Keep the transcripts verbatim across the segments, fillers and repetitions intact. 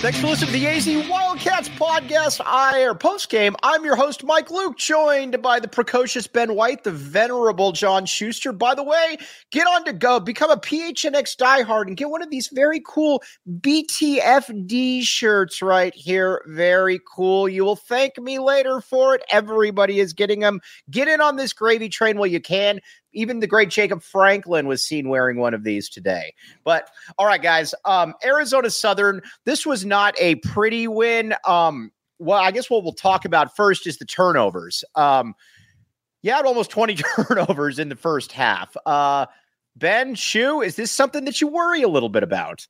Thanks for listening to the A Z Wildcats podcast. I or post game. I'm your host, Mike Luke, joined by the precocious Ben White, the venerable John Schuster. By the way, get on to go, become a P H N X diehard, and get one of these very cool B T F D shirts right here. Very cool. You will thank me later for it. Everybody is getting them. Get in on this gravy train while you can. Even the great Jacob Franklin was seen wearing one of these today. But all right, guys, um, Arizona Southern, this was not a pretty win. Um, well, I guess what we'll talk about first is the turnovers. Um, you had almost twenty turnovers in the first half. Uh, Ben, Shu, is this something that you worry a little bit about?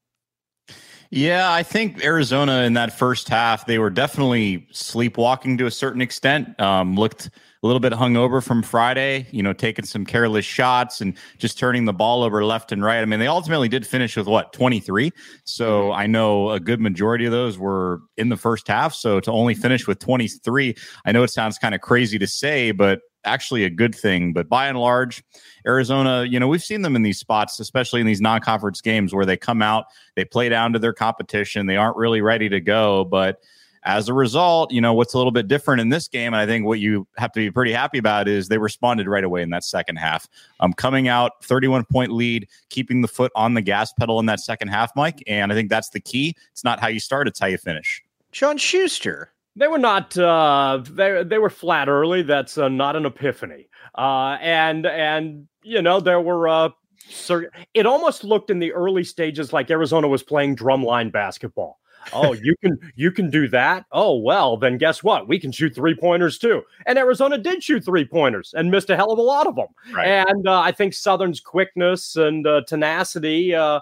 Yeah, I think Arizona in that first half, they were definitely sleepwalking to a certain extent. Um, looked a little bit hungover from Friday, you know, taking some careless shots and just turning the ball over left and right. I mean, they ultimately did finish with what, twenty-three. So I know a good majority of those were in the first half. So to only finish with twenty-three, I know it sounds kind of crazy to say, but actually a good thing. But by and large, Arizona, you know, we've seen them in these spots, especially in these non-conference games where they come out, they play down to their competition. They aren't really ready to go. But as a result, you know, what's a little bit different in this game, and I think what you have to be pretty happy about is they responded right away in that second half. Um, coming out thirty-one point lead, keeping the foot on the gas pedal in that second half, Mike. And I think that's the key. It's not how you start, it's how you finish. John Schuster. They were not, uh, they, they were flat early. That's uh, not an epiphany. Uh, and, and, you know, there were, uh, sur- it almost looked in the early stages like Arizona was playing drumline basketball. Oh, you can, you can do that. Oh, well, then guess what? We can shoot three pointers too. And Arizona did shoot three pointers and missed a hell of a lot of them. Right. And uh, I think Southern's quickness and uh, tenacity, uh,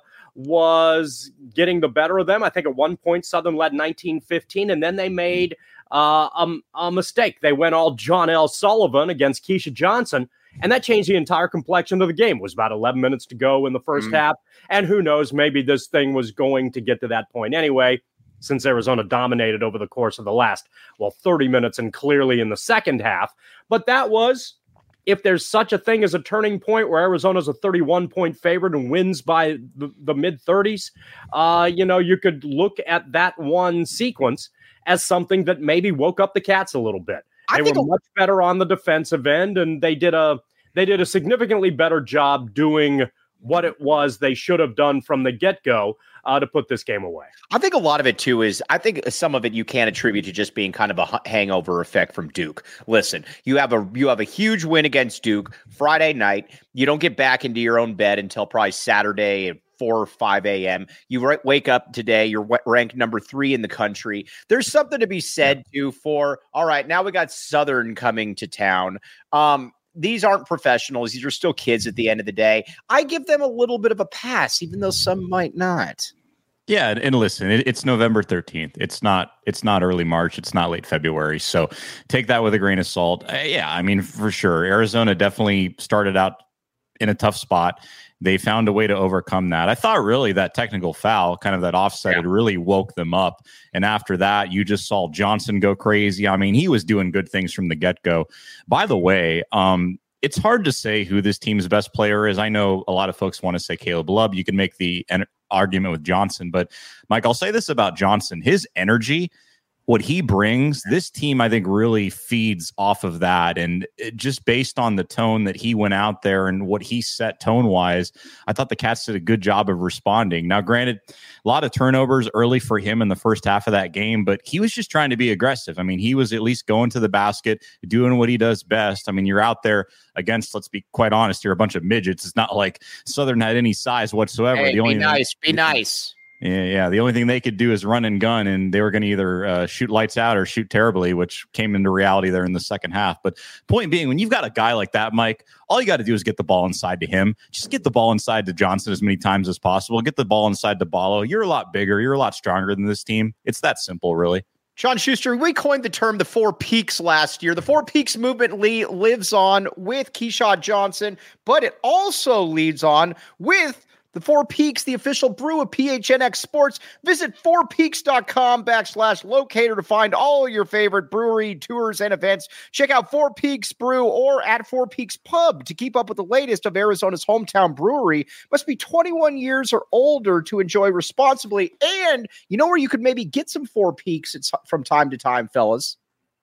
was getting the better of them. I think at one point Southern led nineteen fifteen, and then they made uh, a, a mistake. They went all John L. Sullivan against Keisha Johnson, and that changed the entire complexion of the game. It was about eleven minutes to go in the first mm. half, and who knows, maybe this thing was going to get to that point anyway, since Arizona dominated over the course of the last, well, thirty minutes and clearly in the second half. But that was, if there's such a thing as a turning point where Arizona's a thirty-one point favorite and wins by the, the mid thirties, uh, you know, you could look at that one sequence as something that maybe woke up the Cats a little bit. They were much better on the defensive end, and they did a they did a significantly better job doing what it was they should have done from the get-go uh, to put this game away. I think a lot of it, too, is I think some of it you can attribute to just being kind of a hangover effect from Duke. Listen, you have a you have a huge win against Duke Friday night. You don't get back into your own bed until probably Saturday at four or five a.m. You r- wake up today, you're ranked number three in the country. There's something to be said, too, for, all right, now we got Southern coming to town. Um, These aren't professionals. These are still kids at the end of the day. I give them a little bit of a pass, even though some might not. Yeah, and, and listen, it, it's November thirteenth. It's not it's not early March. It's not late February. So take that with a grain of salt. Uh, yeah, I mean, for sure. Arizona definitely started out in a tough spot. They found a way to overcome that. I thought really that technical foul, kind of that offset, yeah. it really woke them up. And after that, you just saw Johnson go crazy. I mean, he was doing good things from the get-go. By the way, um, it's hard to say who this team's best player is. I know a lot of folks want to say Caleb Love. You can make the en- argument with Johnson. But, Mike, I'll say this about Johnson. His energy, what he brings, this team, I think, really feeds off of that. And it, just based on the tone that he went out there and what he set tone-wise, I thought the Cats did a good job of responding. Now, granted, a lot of turnovers early for him in the first half of that game, but he was just trying to be aggressive. I mean, he was at least going to the basket, doing what he does best. I mean, you're out there against, let's be quite honest, you're a bunch of midgets. It's not like Southern had any size whatsoever. Hey, the only be nice, thing- be nice. Yeah, yeah. The only thing they could do is run and gun, and they were going to either uh, shoot lights out or shoot terribly, which came into reality there in the second half. But point being, when you've got a guy like that, Mike, all you got to do is get the ball inside to him. Just get the ball inside to Johnson as many times as possible. Get the ball inside to Ballo. You're a lot bigger. You're a lot stronger than this team. It's that simple, really. John Schuster, we coined the term the Four Peaks last year. The Four Peaks movement le- lives on with Keisha Johnson, but it also leads on with The Four Peaks, the official brew of P H N X Sports. Visit fourpeaks.com backslash locator to find all your favorite brewery tours and events. Check out Four Peaks Brew or at Four Peaks Pub to keep up with the latest of Arizona's hometown brewery. Must be twenty-one years or older to enjoy responsibly. And you know where you could maybe get some Four Peaks from time to time, fellas?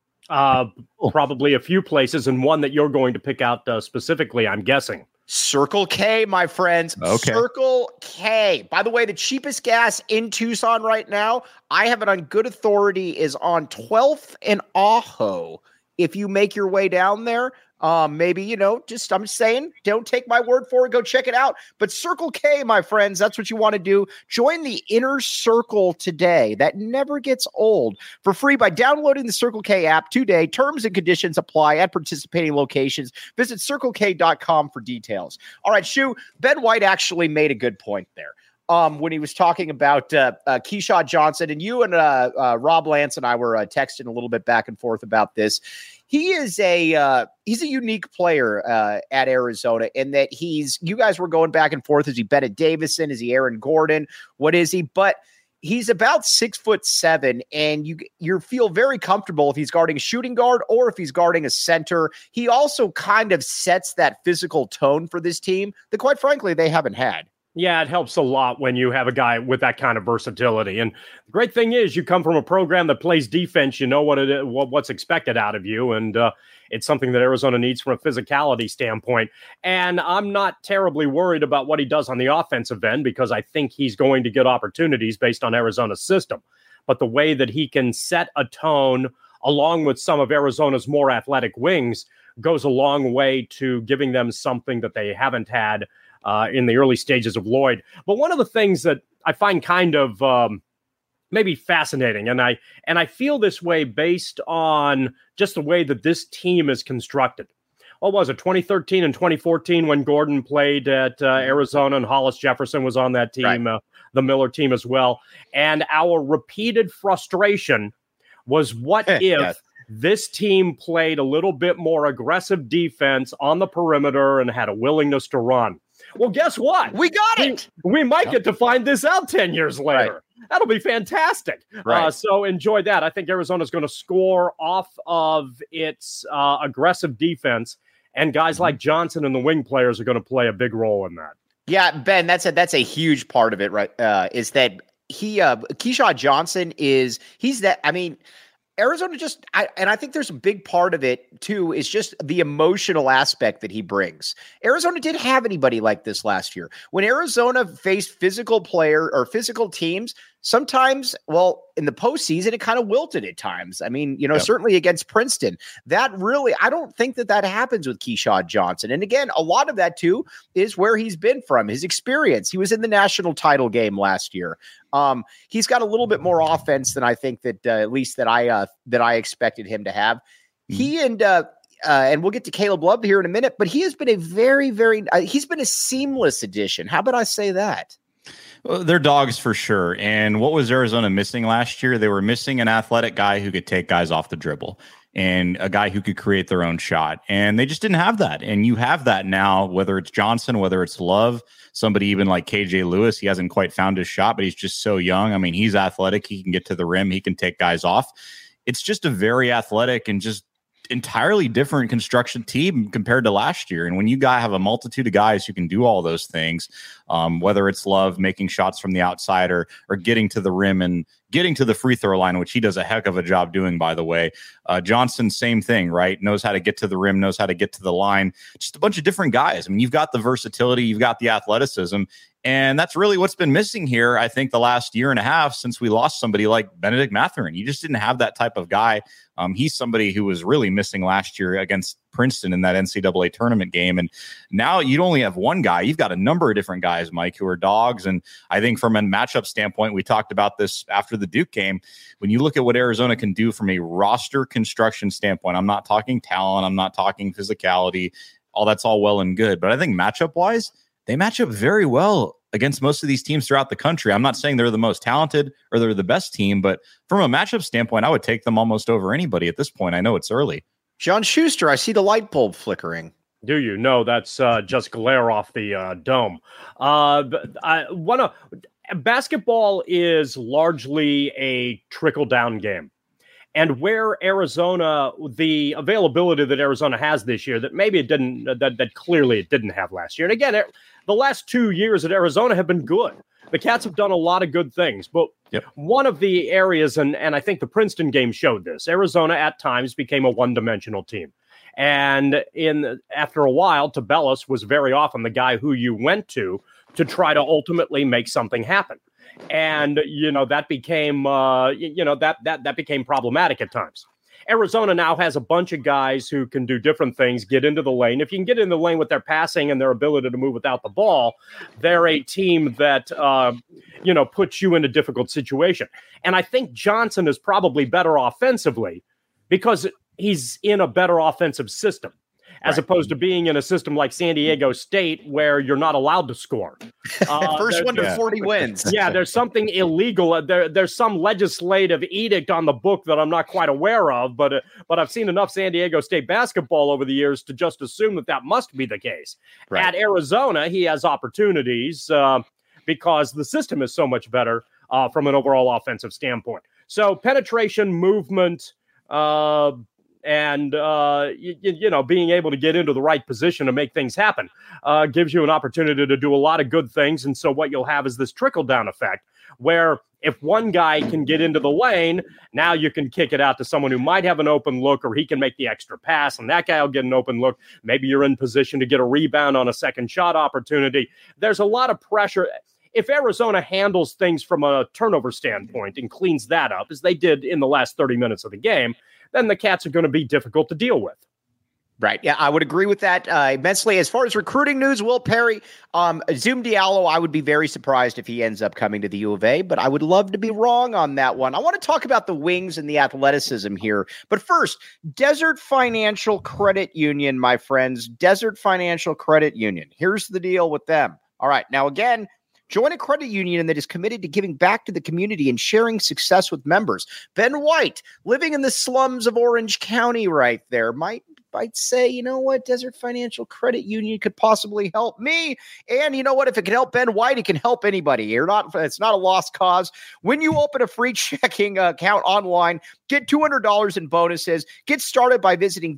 Uh, probably a few places, and one that you're going to pick out uh, specifically, I'm guessing. Circle K, my friends. Okay. Circle K. By the way, the cheapest gas in Tucson right now, I have it on good authority, is on twelfth and Ajo. If you make your way down there, um, maybe, you know, just, I'm saying, don't take my word for it. Go check it out. But Circle K, my friends, that's what you want to do. Join the inner circle today. That never gets old. For free by downloading the Circle K app today. Terms and conditions apply at participating locations. Visit circle k dot com for details. All right, Shu, Ben White actually made a good point there. Um, when he was talking about uh, uh, Keyshawn Johnson, and you and uh, uh, Rob Lance and I were uh, texting a little bit back and forth about this. He is a uh, he's a unique player uh, at Arizona in that he's, you guys were going back and forth. Is he Bennett Davison? Is he Aaron Gordon? What is he? But he's about six foot seven, and you you feel very comfortable if he's guarding a shooting guard or if he's guarding a center. He also kind of sets that physical tone for this team that, quite frankly, they haven't had. Yeah, it helps a lot when you have a guy with that kind of versatility. And the great thing is you come from a program that plays defense. You know what it is, what's expected out of you. And uh, it's something that Arizona needs from a physicality standpoint. And I'm not terribly worried about what he does on the offensive end because I think he's going to get opportunities based on Arizona's system. But the way that he can set a tone along with some of Arizona's more athletic wings goes a long way to giving them something that they haven't had Uh, in the early stages of Lloyd. But one of the things that I find kind of um, maybe fascinating, and I and I feel this way based on just the way that this team is constructed. What was it, twenty thirteen and twenty fourteen when Gordon played at uh, Arizona and Hollis Jefferson was on that team, right. uh, the Miller team as well. And our repeated frustration was what if yes. this team played a little bit more aggressive defense on the perimeter and had a willingness to run. Well, guess what? We got it. We, we might get to find this out ten years later. Right. That'll be fantastic. Right. Uh, so enjoy that. I think Arizona's going to score off of its uh, aggressive defense, and guys like Johnson and the wing players are going to play a big role in that. Yeah, Ben, that's a that's a huge part of it, right? Uh, is that he uh, Keyshawn Johnson is he's that. I mean. Arizona just, I, and I think there's a big part of it too, is just the emotional aspect that he brings. Arizona didn't have anybody like this last year. When Arizona faced physical player or physical teams, sometimes, well, in the postseason, it kind of wilted at times. I mean, you know, yep. certainly against Princeton, that really, I don't think that that happens with Keyshawn Johnson. And again, a lot of that too is where he's been from, his experience. He was in the national title game last year. Um, he's got a little bit more offense than I think that, uh, at least that I, uh, that I expected him to have. Mm-hmm. He and, uh, Uh, and we'll get to Caleb Love here in a minute, but he has been a very, very, uh, he's been a seamless addition. How about I say that? Well, they're dogs for sure. And what was Arizona missing last year? They were missing an athletic guy who could take guys off the dribble and a guy who could create their own shot. And they just didn't have that. And you have that now, whether it's Johnson, whether it's Love, somebody even like K J Lewis. He hasn't quite found his shot, but he's just so young. I mean, he's athletic. He can get to the rim. He can take guys off. It's just a very athletic and just entirely different construction team compared to last year. And when you guys have a multitude of guys who can do all those things, um, whether it's Love making shots from the outside or, or getting to the rim and getting to the free throw line, which he does a heck of a job doing, by the way. Uh, Johnson, same thing, right? Knows how to get to the rim, knows how to get to the line. Just a bunch of different guys. I mean, you've got the versatility, you've got the athleticism, and that's really what's been missing here, I think, the last year and a half since we lost somebody like Benedict Mathurin. You just didn't have that type of guy. Um, he's somebody who was really missing last year against Princeton in that N C double A tournament game. And now you only have one guy. You've got a number of different guys, Mike, who are dogs. And I think from a matchup standpoint, we talked about this after the Duke game. When you look at what Arizona can do from a roster construction standpoint, I'm not talking talent, I'm not talking physicality, all that's all well and good. But I think matchup-wise, they match up very well against most of these teams throughout the country. I'm not saying they're the most talented or they're the best team, but from a matchup standpoint, I would take them almost over anybody at this point. I know it's early. John Schuster, I see the light bulb flickering. Do you? No, that's uh, just glare off the uh, dome. Uh, I want to. Basketball is largely a trickle down game. And where Arizona, the availability that Arizona has this year, that maybe it didn't, that, that clearly it didn't have last year. And again, it, the last two years at Arizona have been good. The Cats have done a lot of good things. But yep. one of the areas, and, and I think the Princeton game showed this, Arizona at times became a one-dimensional team. And in after a while, Tubelis was very often the guy who you went to to try to ultimately make something happen. And, you know, that became, uh, you know, that that that became problematic at times. Arizona now has a bunch of guys who can do different things, get into the lane. If you can get in the lane with their passing and their ability to move without the ball, they're a team that, uh, you know, puts you in a difficult situation. And I think Johnson is probably better offensively because he's in a better offensive system, as right. opposed to being in a system like San Diego State where you're not allowed to score. Uh, First there, one to yeah. forty wins. Yeah, there's something illegal. There, there's some legislative edict on the book that I'm not quite aware of, but uh, but I've seen enough San Diego State basketball over the years to just assume that that must be the case. Right. At Arizona, he has opportunities uh, because the system is so much better uh, from an overall offensive standpoint. So penetration, movement, uh, and, uh, you, you know, being able to get into the right position to make things happen uh, gives you an opportunity to do a lot of good things. And so what you'll have is this trickle-down effect where if one guy can get into the lane, now you can kick it out to someone who might have an open look, or he can make the extra pass, and that guy will get an open look. Maybe you're in position to get a rebound on a second shot opportunity. There's a lot of pressure. If Arizona handles things from a turnover standpoint and cleans that up, as they did in the last thirty minutes of the game, then the Cats are going to be difficult to deal with. Right. Yeah, I would agree with that uh, immensely. As far as recruiting news, Will Perry, um, Zoom Diallo, I would be very surprised if he ends up coming to the U of A, but I would love to be wrong on that one. I want to talk about the wings and the athleticism here. But first, Desert Financial Credit Union, my friends, Desert Financial Credit Union. Here's the deal with them. All right. Now, again, join a credit union that is committed to giving back to the community and sharing success with members. Ben White, living in the slums of Orange County right there, might might say, you know what, Desert Financial Credit Union could possibly help me. And you know what, if it can help Ben White, it can help anybody. You're not, it's not a lost cause. When you open a free checking account online, get two hundred dollars in bonuses. Get started by visiting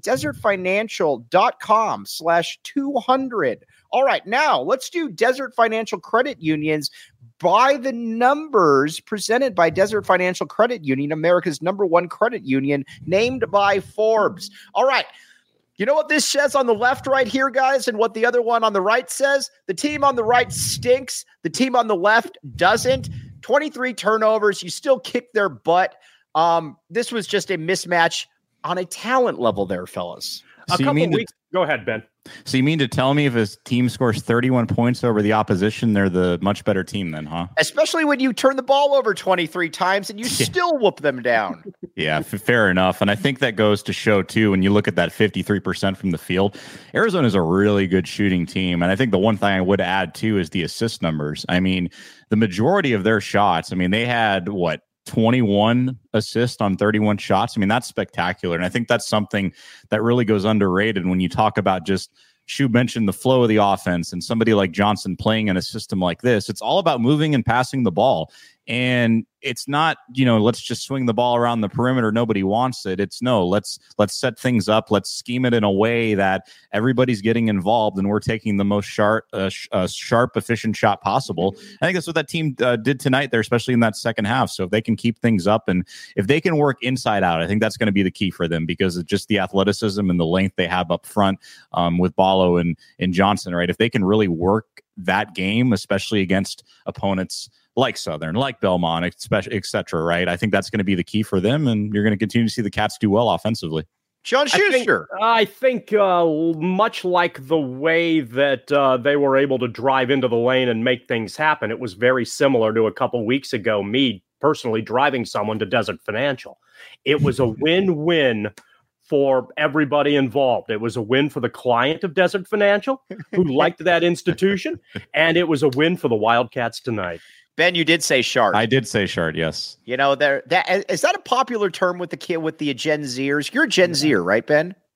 desertfinancial.com slash 200. All right, now let's do Desert Financial Credit Union's By the Numbers, presented by Desert Financial Credit Union, America's number one credit union, named by Forbes. All right. You know what this says on the left right here, guys, and what the other one on the right says? The team on the right stinks. The team on the left doesn't. twenty-three turnovers. You still kick their butt. Um, this was just a mismatch on a talent level there, fellas. A so couple weeks. To- Go ahead, Ben. So you mean to tell me if a team scores thirty-one points over the opposition, they're the much better team then, huh? Especially when you turn the ball over twenty-three times and you yeah. still whoop them down. Yeah, f- fair enough. And I think that goes to show, too, when you look at that fifty-three percent from the field, Arizona is a really good shooting team. And I think the one thing I would add, too, is the assist numbers. I mean, the majority of their shots, I mean, they had, what, twenty-one assists on thirty-one shots. I mean, that's spectacular. And I think that's something that really goes underrated when you talk about just, Shu mentioned the flow of the offense and somebody like Johnson playing in a system like this. It's all about moving and passing the ball. And it's not, you know, let's just swing the ball around the perimeter. Nobody wants it. It's no, let's let's set things up. Let's scheme it in a way that everybody's getting involved and we're taking the most sharp, uh, sh- uh, sharp, efficient shot possible. I think that's what that team uh, did tonight there, especially in that second half. So if they can keep things up and if they can work inside out, I think that's going to be the key for them because of just the athleticism and the length they have up front um, with Ballo and, and Johnson, right? If they can really work that game, especially against opponents like Southern, like Belmont, et cetera, right? I think that's going to be the key for them, and you're going to continue to see the Cats do well offensively. John Schuster. I think, I think uh, much like the way that uh, they were able to drive into the lane and make things happen, it was very similar to a couple weeks ago, me personally driving someone to Desert Financial. It was a win-win for everybody involved. It was a win for the client of Desert Financial, who liked that institution, and it was a win for the Wildcats tonight. Ben, you did say shard. I did say shard, yes. You know, there that is that a popular term with the kid with the Gen Zers? You're a Gen Zer, right, Ben?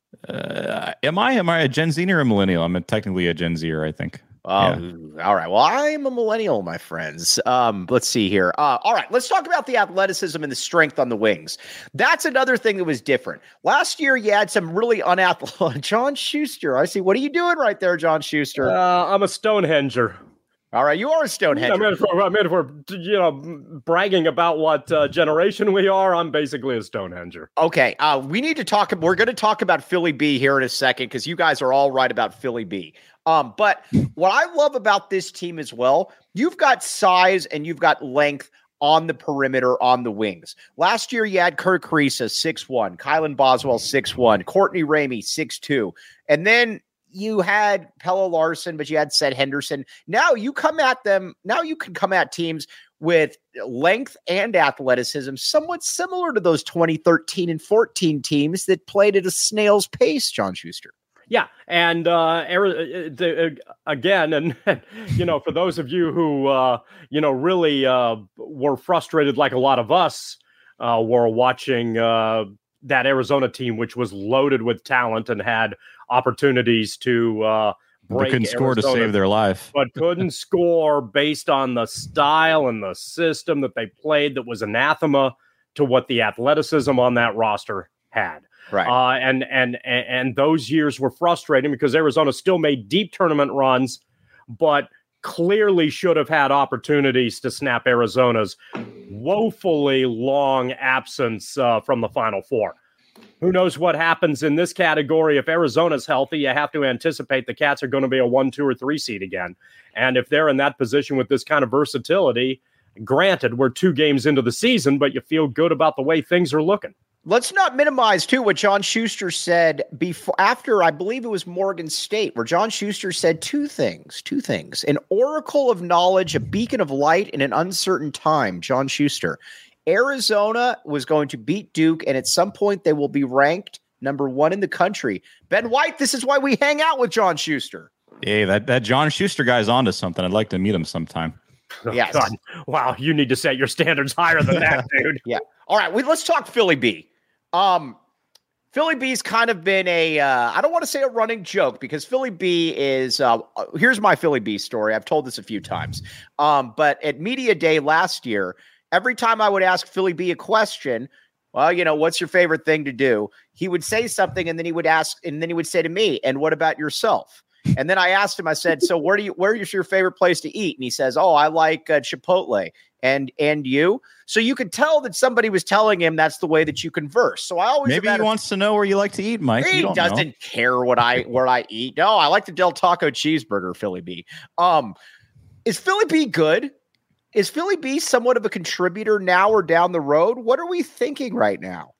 Uh, am I am I a Gen Z or a millennial? I'm a, technically a Gen Zer, I think. Um, yeah. All right. Well, I'm a millennial, my friends. Um, let's see here. Uh, all right. Let's talk about the athleticism and the strength on the wings. That's another thing that was different. Last year, you had some really unathletic. John Schuster. I see. What are you doing right there, John Schuster? Uh, I'm a Stonehenger. All right. You are a Stonehenger. I mean, if we're, I mean, if we're you know, bragging about what uh, generation we are, I'm basically a Stonehenger. Okay. Uh, we need to talk. We're going to talk about Philly B here in a second because you guys are all right about Philly B. Um, but what I love about this team as well, you've got size and you've got length on the perimeter on the wings. Last year, you had Kirk Kriisa, six one, Kylan Boswell, six one, Courtney Ramey, six two. And then you had Pelle Larsson, but you had Seth Henderson. Now you come at them. Now you can come at teams with length and athleticism, somewhat similar to those twenty thirteen and fourteen teams that played at a snail's pace, John Schuster. Yeah, and uh, the, uh, again, and you know, for those of you who uh, you know really uh, were frustrated, like a lot of us uh, were watching uh, that Arizona team, which was loaded with talent and had opportunities to uh, break. They couldn't score Arizona, to save their life, but couldn't score based on the style and the system that they played. That was anathema to what the athleticism on that roster had. Right. Uh, and, and, and, and those years were frustrating because Arizona still made deep tournament runs, but clearly should have had opportunities to snap Arizona's woefully long absence uh, from the Final Four. Who knows what happens in this category? If Arizona's healthy, you have to anticipate the Cats are going to be a one, two, or three seed again. And if they're in that position with this kind of versatility, granted, we're two games into the season, but you feel good about the way things are looking. Let's not minimize, too, what John Schuster said before, after, I believe it was Morgan State, where John Schuster said two things, two things. An oracle of knowledge, a beacon of light in an uncertain time, John Schuster. Arizona was going to beat Duke, and at some point they will be ranked number one in the country. Ben White, this is why we hang out with John Schuster. Hey, that, that John Schuster guy's onto something. I'd like to meet him sometime. Oh, yes. God. Wow, you need to set your standards higher than that, dude. Yeah. All right, we, let's talk Philly B. Um, Philly B's kind of been a, uh, I don't want to say a running joke because Philly B is, uh, here's my Philly B story. I've told this a few times. Um, but at Media Day last year, every time I would ask Philly B a question, well, you know, what's your favorite thing to do? He would say something and then he would ask, and then he would say to me, and what about yourself? And then I asked him, I said, so where do you, where is your favorite place to eat? And he says, oh, I like uh, Chipotle. And, and you, so you could tell that somebody was telling him that's the way that you converse. So I always, maybe he a, wants to know where you like to eat, Mike. He doesn't know. care what I, where I eat. No, I like the Del Taco cheeseburger, Philly B. Um, is Philly B good? Is Philly B somewhat of a contributor now or down the road? What are we thinking right now?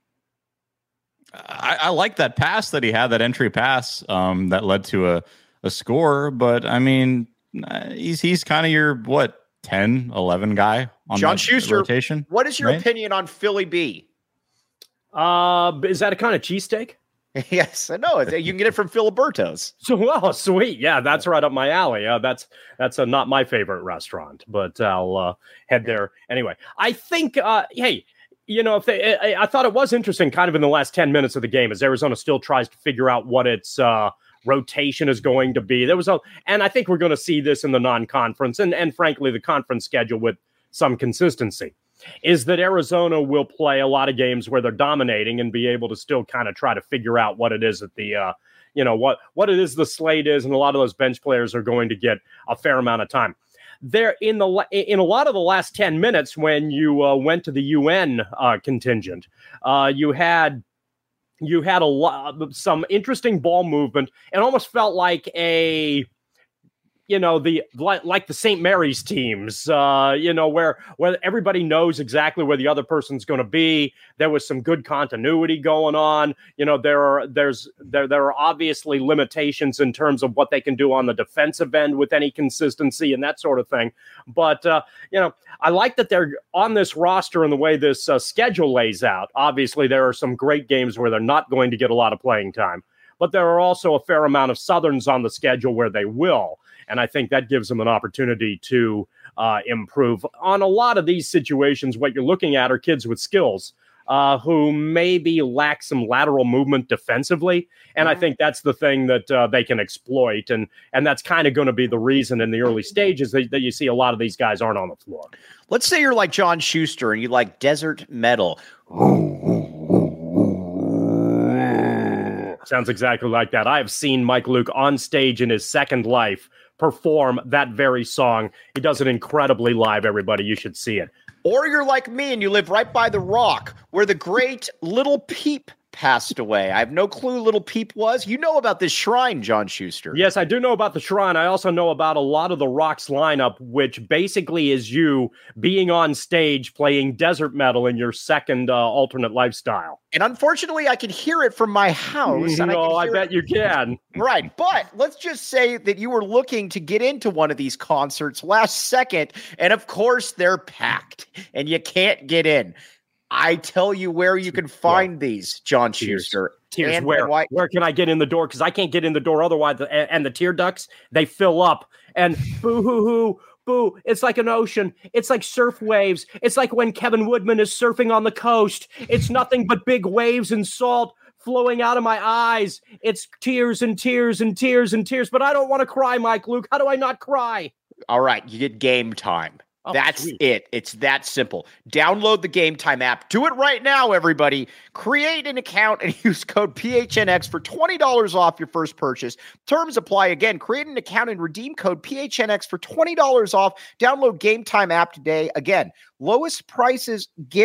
I, I like that pass that he had, that entry pass um, that led to a, a score. But I mean, he's he's kind of your what ten, eleven guy on John Schuster rotation. What is your right? opinion on Philly B? Uh, is that a kind of cheesesteak? Yes, I know. You can get it from Filiberto's. So, well, sweet. Yeah, that's right up my alley. Uh, that's that's a, not my favorite restaurant, but I'll uh, head there anyway. I think, uh, hey, you know, if they, I, I thought it was interesting kind of in the last ten minutes of the game as Arizona still tries to figure out what its uh, rotation is going to be. There was a, and I think we're going to see this in the non-conference and, and frankly, the conference schedule with some consistency. Is that Arizona will play a lot of games where they're dominating and be able to still kind of try to figure out what it is that the, uh, you know, what, what it is the slate is. And a lot of those bench players are going to get a fair amount of time. There in the in a lot of the last ten minutes when you uh, went to the U N uh, contingent, uh, you had you had a lot some interesting ball movement. It almost felt like a you know, the like, like the Saint Mary's teams, uh, you know, where where everybody knows exactly where the other person's going to be. There was some good continuity going on. You know, there are there's there there are obviously limitations in terms of what they can do on the defensive end with any consistency and that sort of thing. But uh, you know, I like that they're on this roster and the way this uh, schedule lays out. Obviously, there are some great games where they're not going to get a lot of playing time, but there are also a fair amount of Southerns on the schedule where they will. And I think that gives them an opportunity to uh, improve. On a lot of these situations, what you're looking at are kids with skills. uh, who maybe lack some lateral movement defensively. And I think that's the thing that uh, they can exploit. And and that's kind of going to be the reason in the early stages that, that you see a lot of these guys aren't on the floor. Let's say you're like John Schuster and you like desert metal. Sounds exactly like that. I have seen Mike Luke on stage in his second life perform that very song. He does it incredibly live, everybody. You should see it. Or you're like me and you live right by the Rock, where the great Little Peep passed away. I have no clue Little Peep was. You know about this shrine, John Schuster. Yes, I do know about the shrine. I also know about a lot of the Rock's lineup, which basically is you being on stage playing desert metal in your second uh, alternate lifestyle. And unfortunately, I can hear it from my house. And no, I, I, I bet it. you can. Right. But let's just say that you were looking to get into one of these concerts last second. And of course, they're packed and you can't get in. I tell you where you can find yeah. these, John Tears. Schuster. Tears. Where? Where can I get in the door? Because I can't get in the door otherwise. The, and the tear ducts, they fill up. And boo hoo hoo. Boo, it's like an ocean. It's like surf waves. It's like when Kevin Woodman is surfing on the coast. It's nothing but big waves and salt flowing out of my eyes. It's tears and tears and tears and tears. But I don't want to cry, Mike Luke. How do I not cry? All right, you get Game Time. Oh, That's sweet. it. It's that simple. Download the Game Time app. Do it right now, everybody. Create an account and use code P H N X for twenty dollars off your first purchase. Terms apply. Again, create an account and redeem code P H N X for twenty dollars off. Download Game Time app today. Again, lowest prices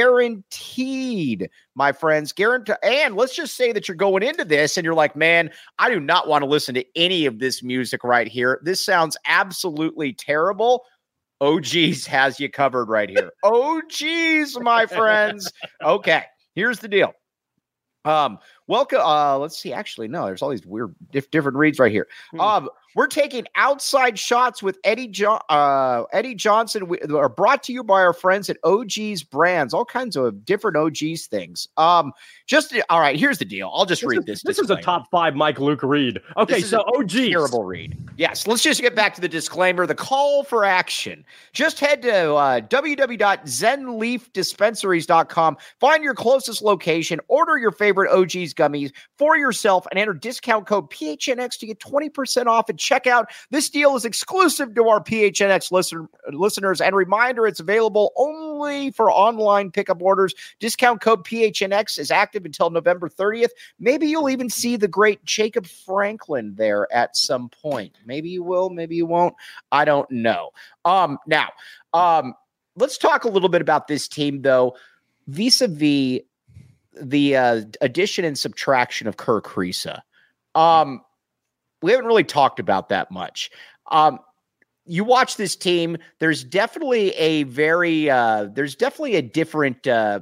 guaranteed, my friends. Guaranteed. And let's just say that you're going into this and you're like, man, I do not want to listen to any of this music right here. This sounds absolutely terrible. O G's has you covered right here. O G's, my friends. Okay, here's the deal. Um, welcome. Uh, let's see. Actually, no, there's all these weird diff- different reads right here. Um, we're taking outside shots with Eddie jo- uh, Eddie Johnson. We are brought to you by our friends at O G's Brands. All kinds of different O G's things. Um, just all right. Here's the deal. I'll just this read is, this. This disclaimer. Is a top five Mike Luke read. Okay, so O G's terrible read. Yes, let's just get back to the disclaimer. The call for action. Just head to uh, w w w dot zen leaf dispensaries dot com. Find your closest location. Order your favorite O G's gummies for yourself and enter discount code P H N X to get twenty percent off at checkout. This deal is exclusive to our P H N X listen, listeners. And reminder, it's available only for online pickup orders. Discount code P H N X is active until November thirtieth. Maybe you'll even see the great Jacob Franklin there at some point. Maybe you will, maybe you won't. I don't know. Um, now, um, let's talk a little bit about this team, though, vis-a-vis the uh, addition and subtraction of Kerr Kriisa. Um, we haven't really talked about that much. Um, you watch this team, there's definitely a very, uh, there's definitely a different, uh,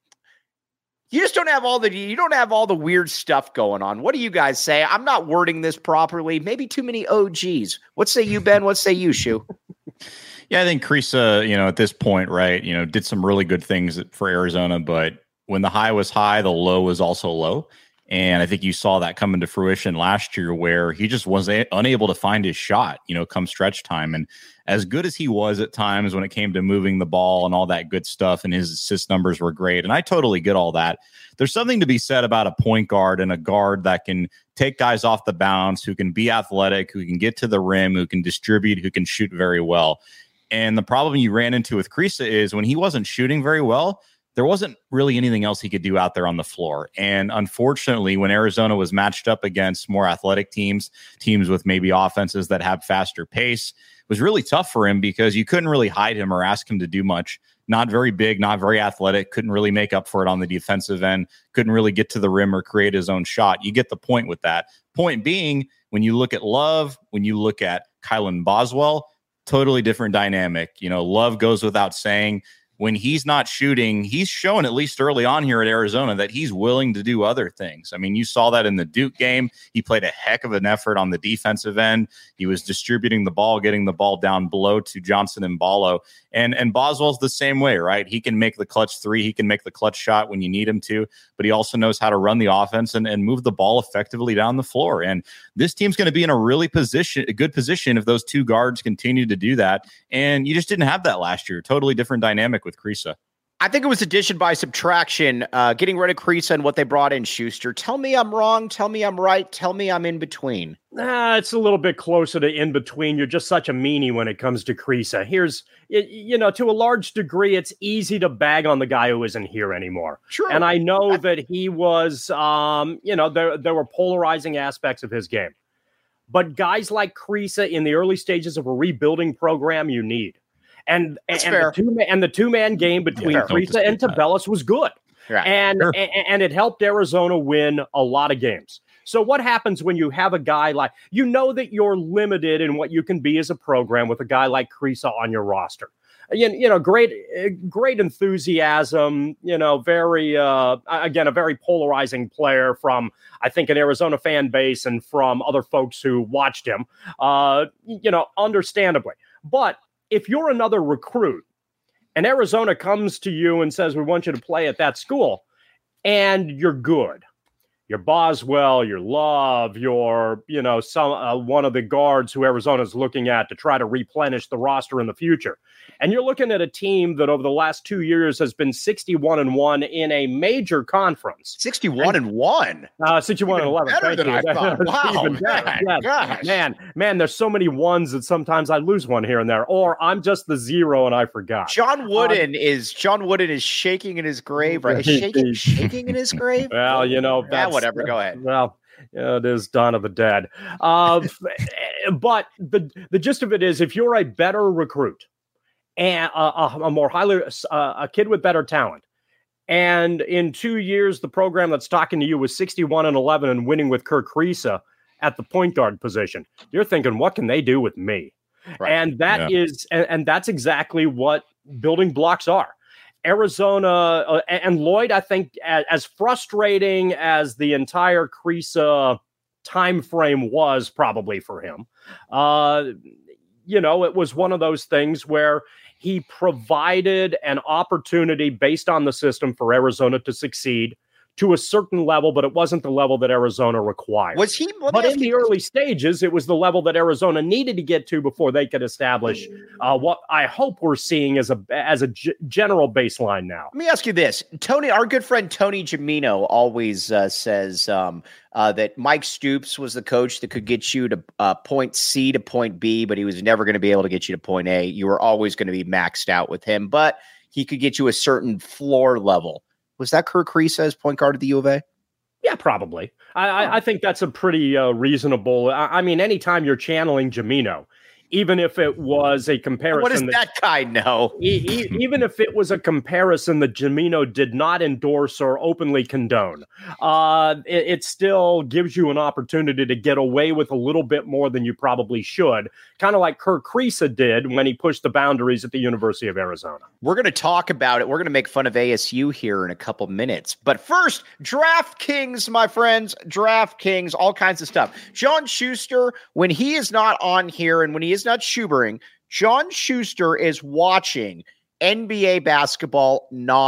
you just don't have all the, you don't have all the weird stuff going on. What do you guys say? I'm not wording this properly. Maybe too many O Gs. What say you, Ben? What say you, Shu? Yeah, I think Kriisa, you know, at this point, right, you know, did some really good things for Arizona, but when the high was high, the low was also low. And I think you saw that come into fruition last year where he just was a- unable to find his shot, you know, come stretch time. And as good as he was at times when it came to moving the ball and all that good stuff, and his assist numbers were great. And I totally get all that. There's something to be said about a point guard and a guard that can take guys off the bounce, who can be athletic, who can get to the rim, who can distribute, who can shoot very well. And the problem you ran into with Kriisa is when he wasn't shooting very well, there wasn't really anything else he could do out there on the floor. And unfortunately, when Arizona was matched up against more athletic teams, teams with maybe offenses that have faster pace, it was really tough for him because you couldn't really hide him or ask him to do much. Not very big, not very athletic, couldn't really make up for it on the defensive end, couldn't really get to the rim or create his own shot. You get the point with that. Point being, when you look at Love, when you look at Kylan Boswell, totally different dynamic. You know, Love goes without saying. When he's not shooting, he's shown at least early on here at Arizona that he's willing to do other things. I mean, you saw that in the Duke game. He played a heck of an effort on the defensive end. He was distributing the ball, getting the ball down below to Johnson and Ballo. And, and Boswell's the same way, right? He can make the clutch three. He can make the clutch shot when you need him to, but he also knows how to run the offense and, and move the ball effectively down the floor. And this team's going to be in a really position, a good position if those two guards continue to do that. And you just didn't have that last year. Totally different dynamic with Kriisa. I think it was addition by subtraction, uh, getting rid of Kriisa and what they brought in, Schuster. Tell me I'm wrong. Tell me I'm right. Tell me I'm in between. Uh, it's a little bit closer to in between. You're just such a meanie when it comes to Kriisa. Here's, you know, to a large degree, it's easy to bag on the guy who isn't here anymore. Sure. And I know that he was, um, you know, there, there were polarizing aspects of his game. But guys like Kriisa in the early stages of a rebuilding program, you need. And and, and the two and the two man game between yeah, Kriisa and Tubelis was good, right. and, sure. and and it helped Arizona win a lot of games. So what happens when you have a guy like, you know that you're limited in what you can be as a program with a guy like Kriisa on your roster. You, you know, great great enthusiasm. You know, very uh, again a very polarizing player from I think an Arizona fan base and from other folks who watched him. Uh, you know, understandably, but. If you're another recruit and Arizona comes to you and says, we want you to play at that school, and you're good, you're Boswell, you're Love, you're, you know, some uh, one of the guards who Arizona's looking at to try to replenish the roster in the future. And you're looking at a team that over the last two years has been sixty-one and one in a major conference. sixty-one and one Uh, sixty-one and eleven. Better than I thought. Wow. Man, yes. man, man, there's so many ones that sometimes I lose one here and there, or I'm just the zero and I forgot. John Wooden um, is John Wooden is shaking in his grave, right? Shaking, shaking in his grave. Well, you know, that's, yeah, whatever. Go ahead. Well, yeah, it is Dawn of the Dead. Uh, but the the gist of it is, if you're a better recruit and a, a more highly uh, a kid with better talent, and in two years the program that's talking to you was sixty-one and eleven and winning with Kerr Kriisa at the point guard position, you're thinking, what can they do with me? Right. And that yeah. is, and, and that's exactly what building blocks are. Arizona uh, and Lloyd, I think, as, as frustrating as the entire Kriisa time frame was probably for him, uh, you know, it was one of those things where he provided an opportunity based on the system for Arizona to succeed to a certain level, but it wasn't the level that Arizona required. Was he? But in the early stages, it was the level that Arizona needed to get to before they could establish uh, what I hope we're seeing as a as a g- general baseline now. Let me ask you this: Tony, our good friend Tony Gimino, always uh, says um, uh, that Mike Stoops was the coach that could get you to uh, point C to point B, but he was never going to be able to get you to point A. You were always going to be maxed out with him, but he could get you a certain floor level. Was that Kerr Kriisa as point guard at the U of A? Yeah, probably. I, I, I think that's a pretty uh, reasonable. I, I mean, anytime you're channeling Gimino, even if it was a comparison. What does that, that guy know? E- e- even if it was a comparison that Gimino did not endorse or openly condone, uh, it, it still gives you an opportunity to get away with a little bit more than you probably should, kind of like Kerr Kriisa did when he pushed the boundaries at the University of Arizona. We're going to talk about it. We're going to make fun of A S U here in a couple minutes. But first, DraftKings, my friends, DraftKings, all kinds of stuff. John Schuster, when he is not on here and when he is not Schubering, John Schuster is watching N B A basketball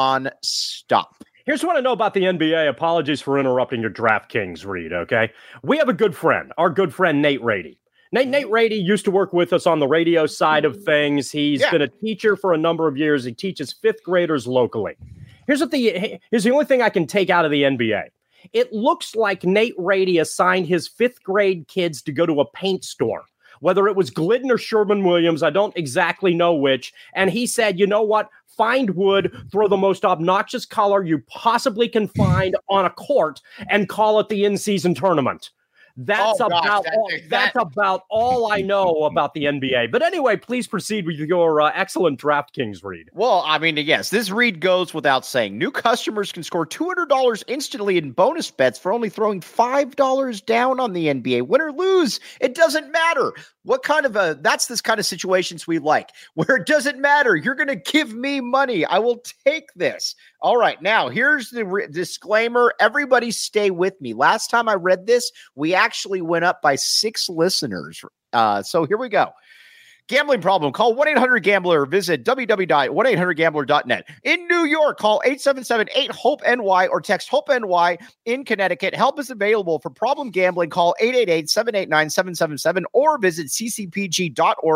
nonstop. Here's what I know about the N B A. Apologies for interrupting your DraftKings read, okay? We have a good friend, our good friend Nate Rady. Nate, Nate Rady used to work with us on the radio side of things. He's yeah. been a teacher for a number of years. He teaches fifth graders locally. Here's what the here's the only thing I can take out of the N B A. It looks like Nate Rady assigned his fifth grade kids to go to a paint store. Whether it was Glidden or Sherman-Williams, I don't exactly know which. And he said, you know what? Find wood, throw the most obnoxious color you possibly can find on a court, and call it the in-season tournament. That's oh, about gosh, that, all, that, that's about all I know about the N B A. But anyway, please proceed with your uh, excellent DraftKings read. Well, I mean, yes, this read goes without saying. New customers can score two hundred dollars instantly in bonus bets for only throwing five dollars down on the N B A. Win or lose, it doesn't matter. What kind of a, that's this kind of situations we like, where it doesn't matter. You're going to give me money. I will take this. All right. Now, here's the re- disclaimer. Everybody stay with me. Last time I read this, we actually went up by six listeners. Uh, so here we go. Gambling problem, call one eight hundred gambler. Visit w w w dot one eight hundred gambler dot net. In New York, call eight seven seven eight hope N Y or text HOPE-NY. In Connecticut, help is available for problem gambling. Call eight eight eight seven eight nine seven seven seven or visit c c p g dot org.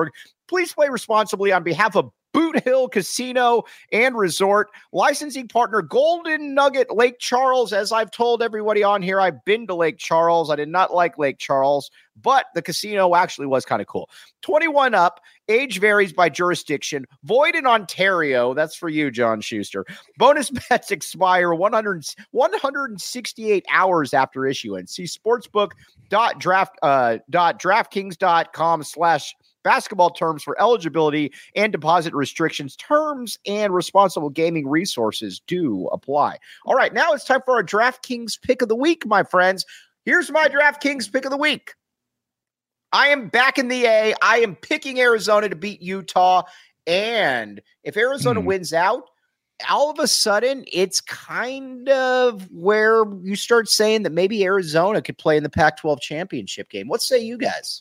Please play responsibly on behalf of Boot Hill Casino and Resort. Licensing partner Golden Nugget Lake Charles. As I've told everybody on here, I've been to Lake Charles. I did not like Lake Charles, but the casino actually was kind of cool. twenty-one up. Age varies by jurisdiction. Void in Ontario. That's for you, John Schuster. Bonus bets expire one hundred, one hundred sixty-eight hours after issuance. See sportsbook.draft, uh, .draftkings.com slash basketball terms for eligibility and deposit restrictions. Terms and responsible gaming resources do apply. All right, now it's time for our DraftKings pick of the week, my friends. Here's my DraftKings pick of the week. I am back in the A. I am picking Arizona to beat Utah. And if Arizona hmm. wins out, all of a sudden, it's kind of where you start saying that maybe Arizona could play in the Pac twelve championship game. What say you guys?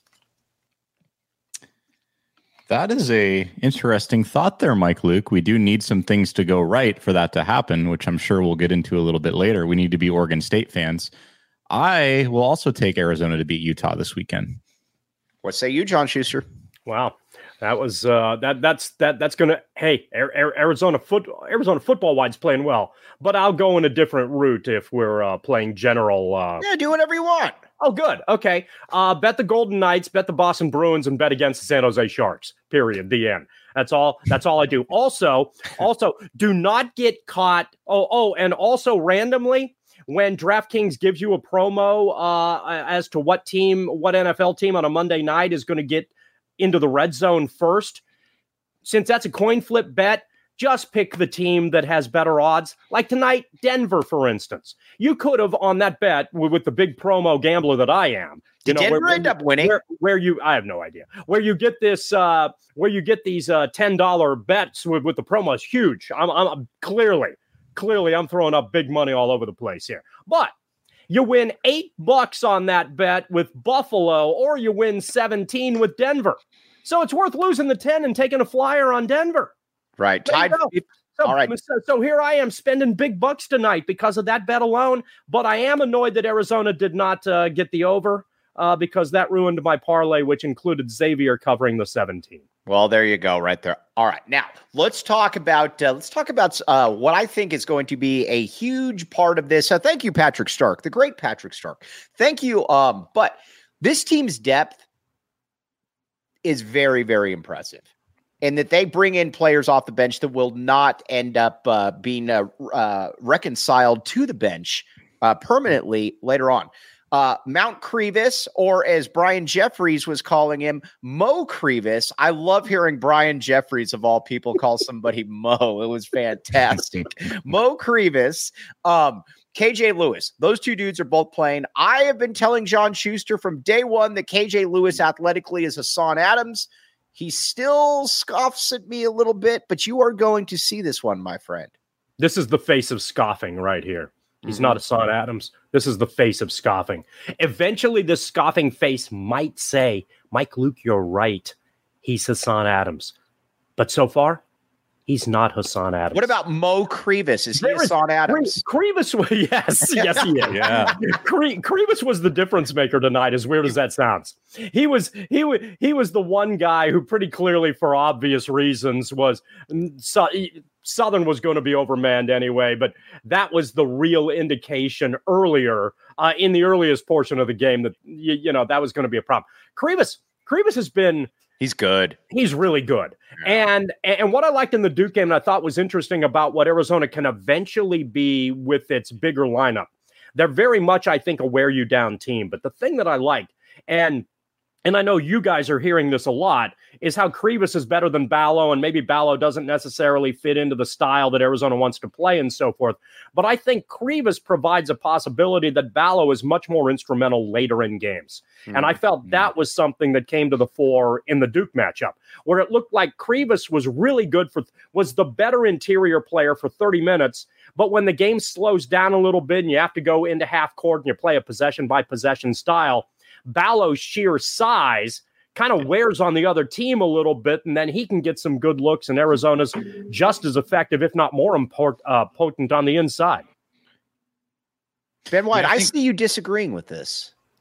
That is a interesting thought there, Mike Luke. We do need some things to go right for that to happen, which I'm sure we'll get into a little bit later. We need to be Oregon State fans. I will also take Arizona to beat Utah this weekend. What say you, John Schuster? Wow, that was uh, that. That's that. That's gonna. Hey, Arizona foot Arizona football wide's playing well, but I'll go in a different route if we're uh, playing general. Uh, yeah, do whatever you want. Oh, good. Okay. Uh, bet the Golden Knights, bet the Boston Bruins, and bet against the San Jose Sharks. Period. The end. That's all. That's all I do. Also, also, do not get caught. Oh, oh, and also randomly, when DraftKings gives you a promo uh, as to what team, what N F L team on a Monday night is going to get into the red zone first, since that's a coin flip bet, just pick the team that has better odds. Like tonight, Denver, for instance. You could have, on that bet, with, with the big promo gambler that I am. You Did know, Denver where, end up winning? Where, where you, I have no idea. Where you get this, uh, where you get these uh, ten dollar bets with, with the promo is huge. I'm, I'm, I'm clearly, clearly, I'm throwing up big money all over the place here. But you win eight bucks on that bet with Buffalo, or you win seventeen with Denver. So it's worth losing the ten and taking a flyer on Denver. Right. Tied. So, All right. So, so here I am spending big bucks tonight because of that bet alone. But I am annoyed that Arizona did not uh, get the over uh, because that ruined my parlay, which included Xavier covering the seventeen. Well, there you go, right there. All right, now let's talk about uh, let's talk about uh, what I think is going to be a huge part of this. Uh, thank you, Patrick Stark, the great Patrick Stark. Thank you. Um, but this team's depth is very, very impressive. And that they bring in players off the bench that will not end up uh, being uh, uh, reconciled to the bench uh, permanently later on. Uh, Mount Crevis, or as Brian Jeffries was calling him, Mo Crevis. I love hearing Brian Jeffries, of all people, call somebody Mo. It was fantastic. Mo Crevis, um, K J Lewis. Those two dudes are both playing. I have been telling John Schuster from day one that K J Lewis athletically is Hassan Adams. He still scoffs at me a little bit, but you are going to see this one, my friend. This is the face of scoffing right here. He's mm-hmm. not Hassan Adams. This is the face of scoffing. Eventually, this scoffing face might say, Mike Luke, you're right. He's Hassan Adams. But so far, he's not Hassan Adams. What about Mo Crevis? Is he there Hassan is, Adams? Crevis, yes, yes, he is. Yeah. Cre- Crevis was the difference maker tonight, as weird as that sounds. He was he was he was the one guy who pretty clearly, for obvious reasons, was so, Southern was going to be overmanned anyway, but that was the real indication earlier uh, in the earliest portion of the game that you, you know that was going to be a problem. Crevis, Crevis has been. He's good. He's really good. Yeah. And and what I liked in the Duke game and I thought was interesting about what Arizona can eventually be with its bigger lineup, they're very much, I think, a wear you down team. But the thing that I like, and and I know you guys are hearing this a lot, is how Crevis is better than Ballo, and maybe Ballo doesn't necessarily fit into the style that Arizona wants to play and so forth. But I think Crevis provides a possibility that Ballo is much more instrumental later in games. Mm-hmm. And I felt that was something that came to the fore in the Duke matchup, where it looked like Crevis was really good for, was the better interior player for thirty minutes. But when the game slows down a little bit and you have to go into half court and you play a possession by possession style, Ballo's sheer size kind of wears on the other team a little bit, and then he can get some good looks, and Arizona's just as effective, if not more import, uh, potent on the inside. Ben White, yeah, I, think, I see you disagreeing with this.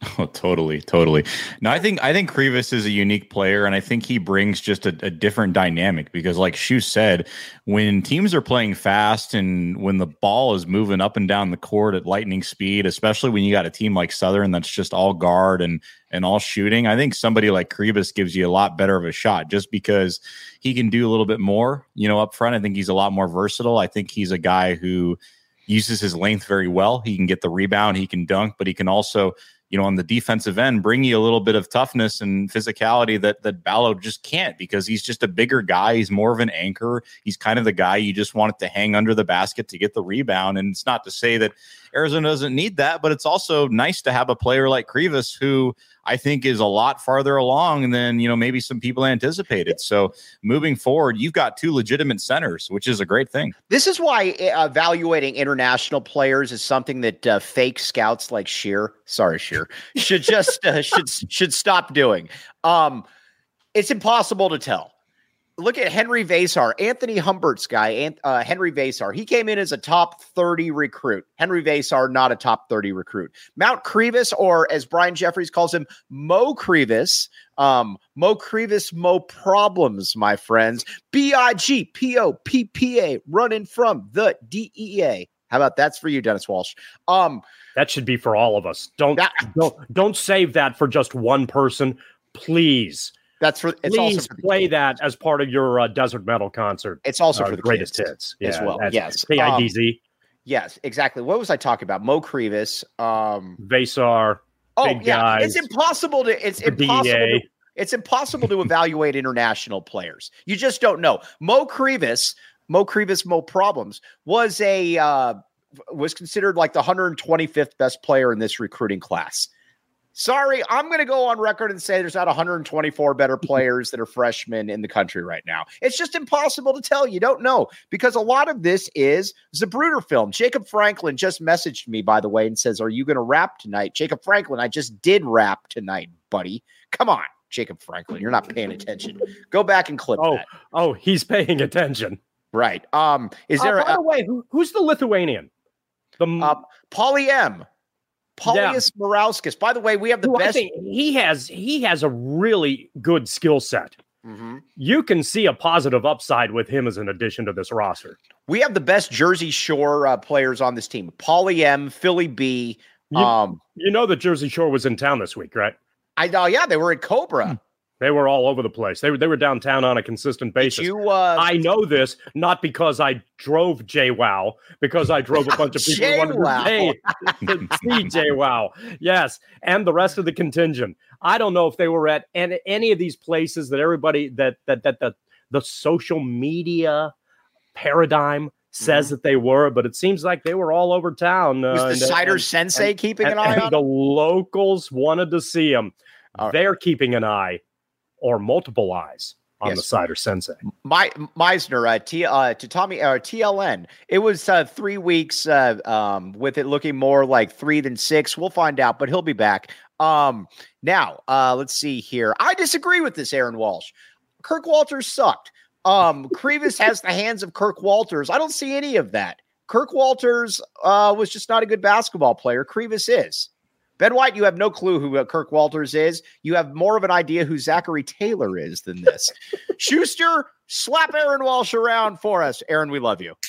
Oh, totally, totally. No, I think I think Krivas is a unique player, and I think he brings just a, a different dynamic because, like Shu said, when teams are playing fast and when the ball is moving up and down the court at lightning speed, especially when you got a team like Southern that's just all guard and and all shooting, I think somebody like Krivas gives you a lot better of a shot just because he can do a little bit more, you know, up front. I think he's a lot more versatile. I think he's a guy who uses his length very well. He can get the rebound, he can dunk, but he can also, you know, on the defensive end, bring you a little bit of toughness and physicality that that Ballo just can't because he's just a bigger guy. He's more of an anchor. He's kind of the guy you just want it to hang under the basket to get the rebound. And it's not to say that Arizona doesn't need that, but it's also nice to have a player like Krivas who I think is a lot farther along than, you know, maybe some people anticipated. So moving forward, you've got two legitimate centers, which is a great thing. This is why uh, evaluating international players is something that uh, fake scouts like Shear, sorry, Shear, should just uh, should should stop doing. Um, it's impossible to tell. Look at Henry Vasar, Anthony Humbert's guy, uh, Henry Vasar. He came in as a top thirty recruit. Henry Vasar, not a top thirty recruit. Mount Krivas, or as Brian Jeffries calls him, Mo Krivas. Um, Mo Krivas, Mo Problems, my friends. B I G P O P P A, running from the D E A. How about that's for you, Dennis Walsh? Um, that should be for all of us. Don't that, don't don't save that for just one person, please. That's for. It's Please also for play kids. that as part of your uh, Desert Metal concert. It's also uh, for the greatest kids hits as yeah, well. Yes, K I D Z. Um, yes, exactly. What was I talking about? Mo Krivas, um, Vasar. Oh big yeah, guys, it's impossible to. It's impossible. To, it's impossible to evaluate international players. You just don't know. Mo Krivas, Mo Krivas, Mo Problems was a uh, was considered like the one hundred twenty-fifth best player in this recruiting class. Sorry, I'm going to go on record and say there's not one hundred twenty-four better players that are freshmen in the country right now. It's just impossible to tell. You don't know because a lot of this is Zapruder film. Jacob Franklin just messaged me, by the way, and says, are you going to rap tonight? Jacob Franklin, I just did rap tonight, buddy. Come on, Jacob Franklin. You're not paying attention. Go back and clip oh, that. Oh, he's paying attention. Right. Um, is there uh, by a, the way, who, who's the Lithuanian? The uh, Pauly M. Paulius yeah. Morauskas. By the way, we have the Who best. I think he has he has a really good skill set. Mm-hmm. You can see a positive upside with him as an addition to this roster. We have the best Jersey Shore uh, players on this team. Pauly M, Philly B. You, um, you know that Jersey Shore was in town this week, right? I know. Uh, yeah, they were at Cobra. Hmm. They were all over the place. They were they were downtown on a consistent basis. Did you, uh, I know this not because I drove JWoww, because I drove a bunch of people who wanted to pay to see JWoww. Yes, and the rest of the contingent. I don't know if they were at any, any of these places that everybody that that that the the social media paradigm says mm-hmm. that they were, but it seems like they were all over town. Was uh, the and, Cider and, Sensei and, keeping and, an eye and on the locals wanted to see them. Right. They're keeping an eye. Or multiple eyes on yes. the Cider Sensei. My Meisner, uh, T, uh, to Tommy, uh, T L N. It was uh, three weeks uh, um, with it looking more like three than six. We'll find out, but he'll be back. Um, now, uh, let's see here. I disagree with this, Aaron Walsh. Kirk Walters sucked. Um, Krivas has the hands of Kirk Walters. I don't see any of that. Kirk Walters uh, was just not a good basketball player. Krivas is. Ben White, you have no clue who uh, Kirk Walters is. You have more of an idea who Zachary Taylor is than this. Schuster, slap Aaron Walsh around for us. Aaron, we love you.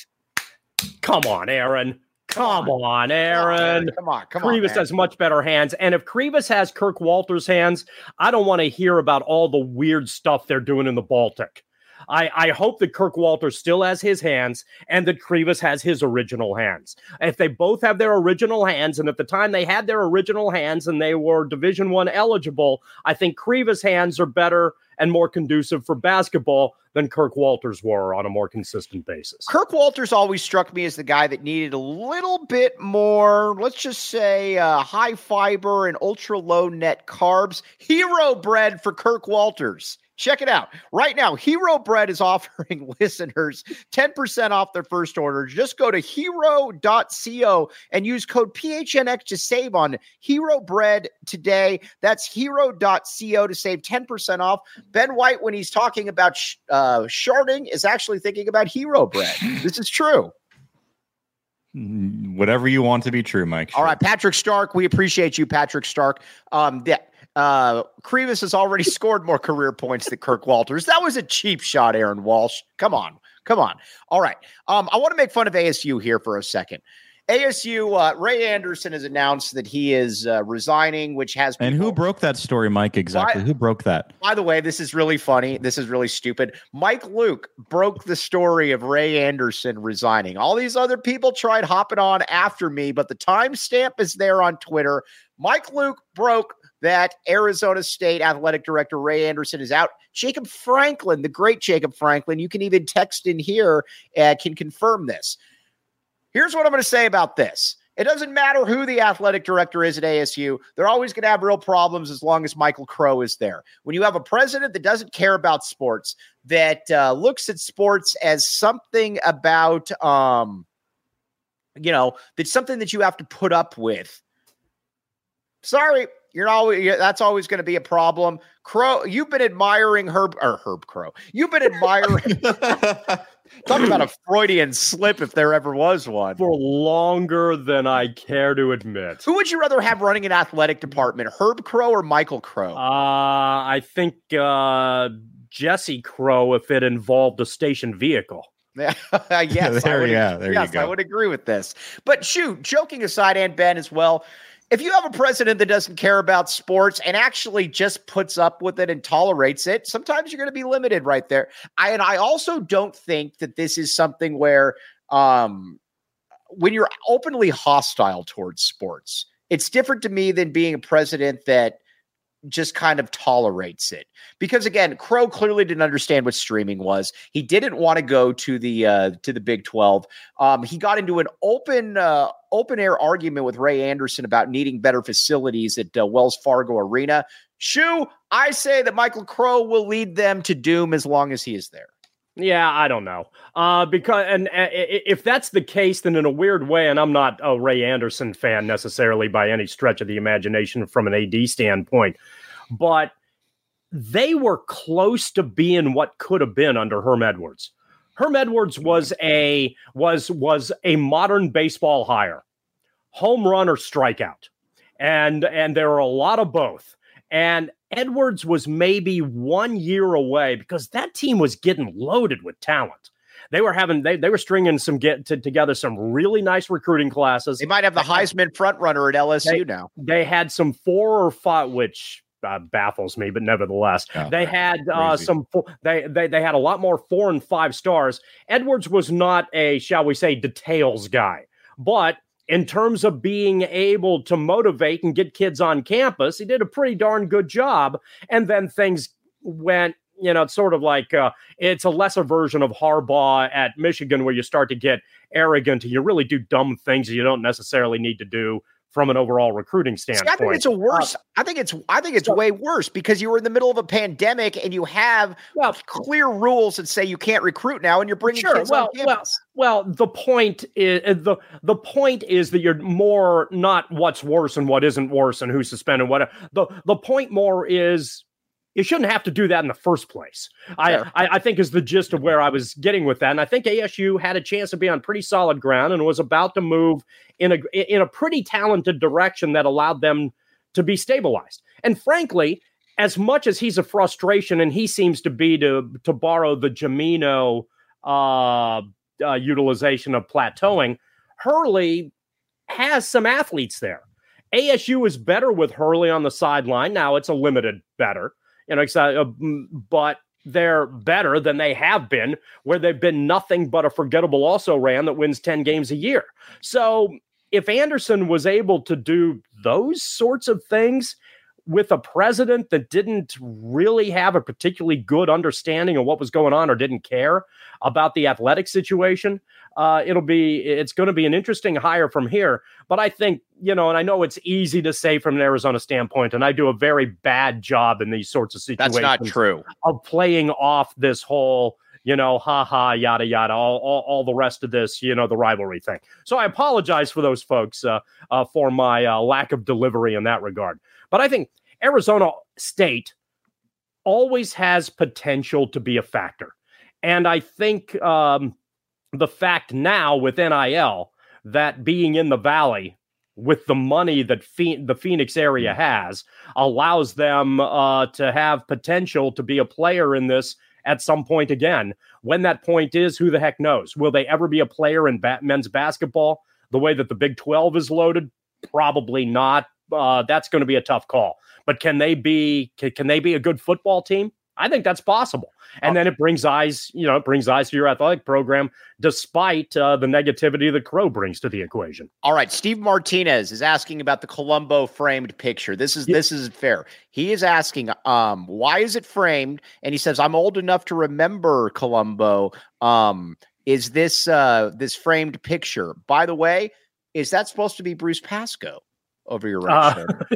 Come on, Aaron. Come, come on, on, Aaron. Come on, come Krivas on. Krivas has much better hands. And if Krivas has Kirk Walters' hands, I don't want to hear about all the weird stuff they're doing in the Baltic. I, I hope that Kirk Walters still has his hands and that Krivas has his original hands. If they both have their original hands, and at the time they had their original hands and they were Division One eligible, I think Krivas' hands are better and more conducive for basketball than Kirk Walters were on a more consistent basis. Kirk Walters always struck me as the guy that needed a little bit more, let's just say, uh, high fiber and ultra low net carbs. Hero bread for Kirk Walters. Check it out. Right now, Hero Bread is offering listeners ten percent off their first order. Just go to hero dot co and use code P H N X to save on Hero Bread today. That's hero dot co to save ten percent off. Ben White, when he's talking about sh- uh, sharding, is actually thinking about Hero Bread. This is true. Whatever you want to be true, Mike. Sure. All right, Patrick Stark. We appreciate you, Patrick Stark. Um, yeah, uh, Krivas has already scored more career points than Kirk Walters. That was a cheap shot, Aaron Walsh. Come on, come on. All right. Um, I want to make fun of A S U here for a second. A S U, uh, Ray Anderson has announced that he is uh, resigning, which has people... And who broke that story, Mike, exactly? By, who broke that? By the way, this is really funny. This is really stupid. Mike Luke broke the story of Ray Anderson resigning. All these other people tried hopping on after me, but the timestamp is there on Twitter. Mike Luke broke that Arizona State athletic director Ray Anderson is out. Jacob Franklin, the great Jacob Franklin, you can even text in here, uh, can confirm this. Here's what I'm going to say about this. It doesn't matter who the athletic director is at A S U. They're always going to have real problems as long as Michael Crow is there. When you have a president that doesn't care about sports, that uh, looks at sports as something about, um, you know, that's something that you have to put up with. Sorry, you're always, that's always going to be a problem. Crow, you've been admiring Herb, or Herb Crow. You've been admiring... Talk about a Freudian slip if there ever was one. For longer than I care to admit. Who would you rather have running an athletic department, Herb Crow or Michael Crow? Uh, I think uh, Jesse Crow if it involved a station vehicle. yes, there, I would, yeah, there yes, you go. I would agree with this. But shoot, joking aside, and Ben as well, if you have a president that doesn't care about sports and actually just puts up with it and tolerates it, sometimes you're going to be limited right there. I, and I also don't think that this is something where um, when you're openly hostile towards sports, it's different to me than being a president that just kind of tolerates it. Because again, Crow clearly didn't understand what streaming was. He didn't want to go to the uh, to the Big twelve. Um, he got into an open uh, open air argument with Ray Anderson about needing better facilities at uh, Wells Fargo Arena. Shoo, I say that Michael Crow will lead them to doom as long as he is there. Yeah, I don't know. Uh, because and uh, if that's the case, then in a weird way, and I'm not a Ray Anderson fan necessarily by any stretch of the imagination from an A D standpoint, but they were close to being what could have been under Herm Edwards. Herm Edwards was a was was a modern baseball hire, home run or strikeout, and and there are a lot of both. And Edwards was maybe one year away because that team was getting loaded with talent. They were having they they were stringing some get to, together some really nice recruiting classes. They might have the Heisman front runner at L S U they, now. They had some four or five, which uh, baffles me, but nevertheless, oh, they had uh, some. They they they had a lot more four and five stars. Edwards was not a, shall we say, details guy, but in terms of being able to motivate and get kids on campus, he did a pretty darn good job. And then things went, you know, it's sort of like uh, it's a lesser version of Harbaugh at Michigan where you start to get arrogant and you really do dumb things you don't necessarily need to do from an overall recruiting standpoint. See, I think it's a worse. Uh, I think it's. I think it's so, way worse because you were in the middle of a pandemic and you have well, clear rules that say you can't recruit now, and you're bringing sure, kids well, on campus. Well, well, the point is the the point is that you're more not what's worse and what isn't worse and who's suspended. What the the point more is. You shouldn't have to do that in the first place. I, I, I think is the gist of where I was getting with that. And I think A S U had a chance to be on pretty solid ground and was about to move in a in a pretty talented direction that allowed them to be stabilized. And frankly, as much as he's a frustration and he seems to be, to, to borrow the Jamino uh, uh, utilization of plateauing, Hurley has some athletes there. A S U is better with Hurley on the sideline. Now it's a limited better. You know, uh, but they're better than they have been, where they've been nothing but a forgettable also-ran that wins ten games a year. So if Anderson was able to do those sorts of things with a president that didn't really have a particularly good understanding of what was going on or didn't care about the athletic situation, uh, it'll be, it's going to be an interesting hire from here. But I think, you know, and I know it's easy to say from an Arizona standpoint, and I do a very bad job in these sorts of situations. That's not true. Of playing off this whole, you know, ha ha, yada, yada, all, all, all the rest of this, you know, the rivalry thing. So I apologize for those folks uh, uh, for my uh, lack of delivery in that regard. But I think Arizona State always has potential to be a factor. And I think um, the fact now with N I L that being in the Valley with the money that Phe- the Phoenix area has allows them uh, to have potential to be a player in this at some point again. When that point is, who the heck knows? Will they ever be a player in ba- men's basketball the way that the Big twelve is loaded? Probably not. Uh, that's going to be a tough call. But can they be? Can, can they be a good football team? I think that's possible. And then it brings eyes, you know, it brings eyes to your athletic program, despite uh, the negativity that Crow brings to the equation. All right. Steve Martinez is asking about the Colombo framed picture. This is, yeah. this is fair. He is asking, um, why is it framed? And he says, I'm old enough to remember Colombo. Um, is this, uh, this framed picture, by the way, is that supposed to be Bruce Pascoe over your right uh, shoulder?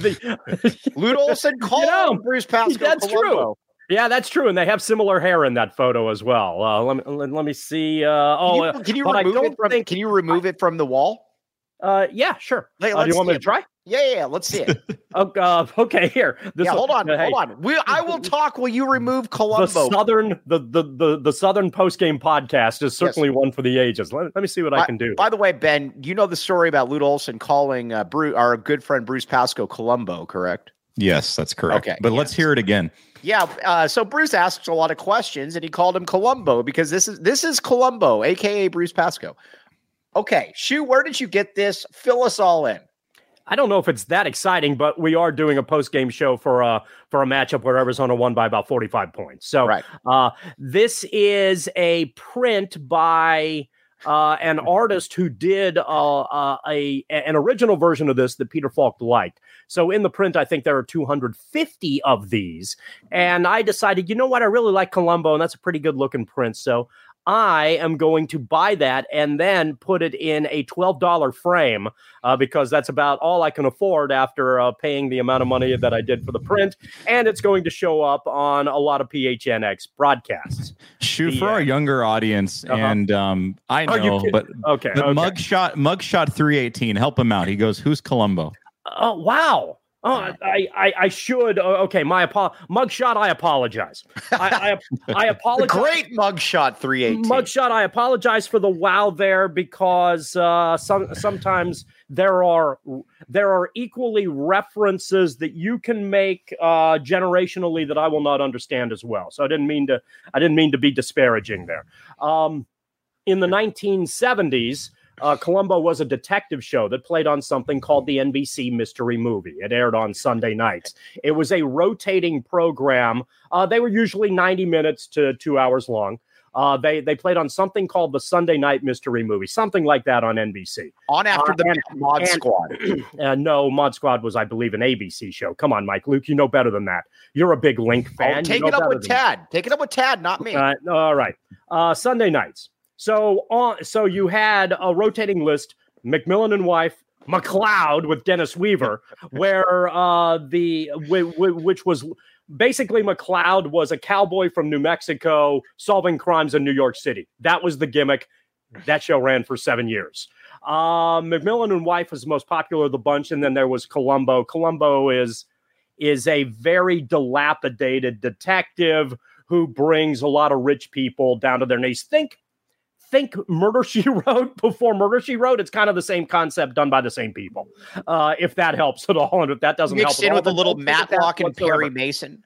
the, Lute Olson called you know, Bruce Pascoe. That's Colombo. True. Yeah, that's true, and they have similar hair in that photo as well. Uh, let me let, let me see. Uh, oh, can you, can you remove it from? Think, can you remove I, it from the wall? Uh, yeah, sure. Hey, uh, do you want me to try? Yeah, yeah, yeah, let's see it. okay, uh, okay, here. This yeah, hold on, uh, hold hey. on. We, I will talk. Will you remove Colombo? The southern, the the the, the Southern Post Game podcast is certainly yes. one for the ages. Let, let me see what by, I can do. By the way, Ben, you know the story about Lute Olson calling uh, Bruce, our good friend Bruce Pascoe Colombo, correct? Yes, that's correct. Okay, but yes. let's hear it again. Yeah, uh, so Bruce asks a lot of questions, and he called him Colombo because this is this is Colombo, a k a. Bruce Pascoe. Okay, Shu, where did you get this? Fill us all in. I don't know if it's that exciting, but we are doing a post-game show for a, for a matchup where Arizona won by about forty-five points. So right. uh, this is a print by uh, an artist who did uh, uh, a an original version of this that Peter Falk liked. So in the print, I think there are two hundred fifty of these. And I decided, you know what? I really like Colombo, and that's a pretty good looking print. So I am going to buy that and then put it in a twelve dollars frame uh, because that's about all I can afford after uh, paying the amount of money that I did for the print. And it's going to show up on a lot of P H N X broadcasts. Shoot, for our younger audience, uh-huh. and um, I know, oh, but okay, the okay. mugshot, mugshot three eighteen, help him out. He goes, who's Colombo? Oh, wow. Oh, I, I, I should. Okay, my apo- mugshot. I apologize. I, I, I apologize. Great mugshot, three eighteen. Mugshot. I apologize for the wow there because uh, some sometimes there are there are equally references that you can make uh, generationally that I will not understand as well. So I didn't mean to. I didn't mean to be disparaging there. Um, in the nineteen seventies. Uh, Colombo was a detective show that played on something called the N B C Mystery Movie. It aired on Sunday nights. It was a rotating program. Uh, they were usually ninety minutes to two hours long. Uh, they they played on something called the Sunday Night Mystery Movie, something like that on N B C. On after uh, the and, Mod and, Squad. Uh, no, Mod Squad was, I believe, an A B C show. Come on, Mike. Luke, you know better than that. You're a big Link fan. Oh, take you know it up with Tad. That. Take it up with Tad, not me. Uh, all right. Uh, Sunday nights. So on, so you had a rotating list, McMillan and Wife, McLeod with Dennis Weaver, where uh, the w- w- which was basically McLeod was a cowboy from New Mexico solving crimes in New York City. That was the gimmick. That show ran for seven years. Uh, McMillan and Wife was the most popular of the bunch, and then there was Colombo. Colombo is is a very dilapidated detective who brings a lot of rich people down to their knees. Think. Think Murder, She Wrote before Murder, She Wrote. It's kind of the same concept done by the same people. Uh, if that helps at all, and if that doesn't Mixed help, in at with all, a little Matlock and Perry Mason.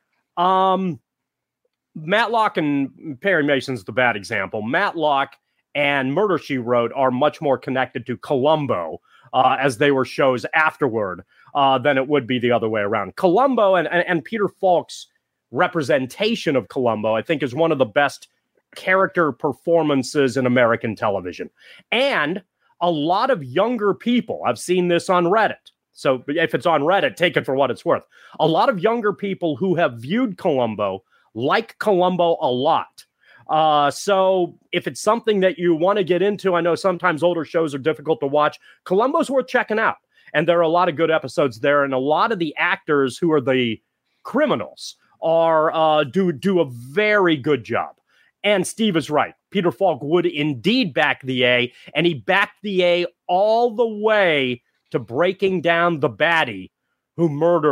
Um, Matlock and Perry Mason's the bad example. Matlock and Murder, She Wrote are much more connected to Colombo uh, as they were shows afterward uh, than it would be the other way around. Colombo and, and and Peter Falk's representation of Colombo, I think, is one of the best character performances in American television. And a lot of younger people, I've seen this on Reddit. So if it's on Reddit, take it for what it's worth. A lot of younger people who have viewed Colombo like Colombo a lot. Uh, so if it's something that you want to get into, I know sometimes older shows are difficult to watch. Colombo's worth checking out. And there are a lot of good episodes there. And a lot of the actors who are the criminals are uh, do do a very good job. And Steve is right. Peter Falk would indeed back the A, and he backed the A all the way to breaking down the baddie who murdered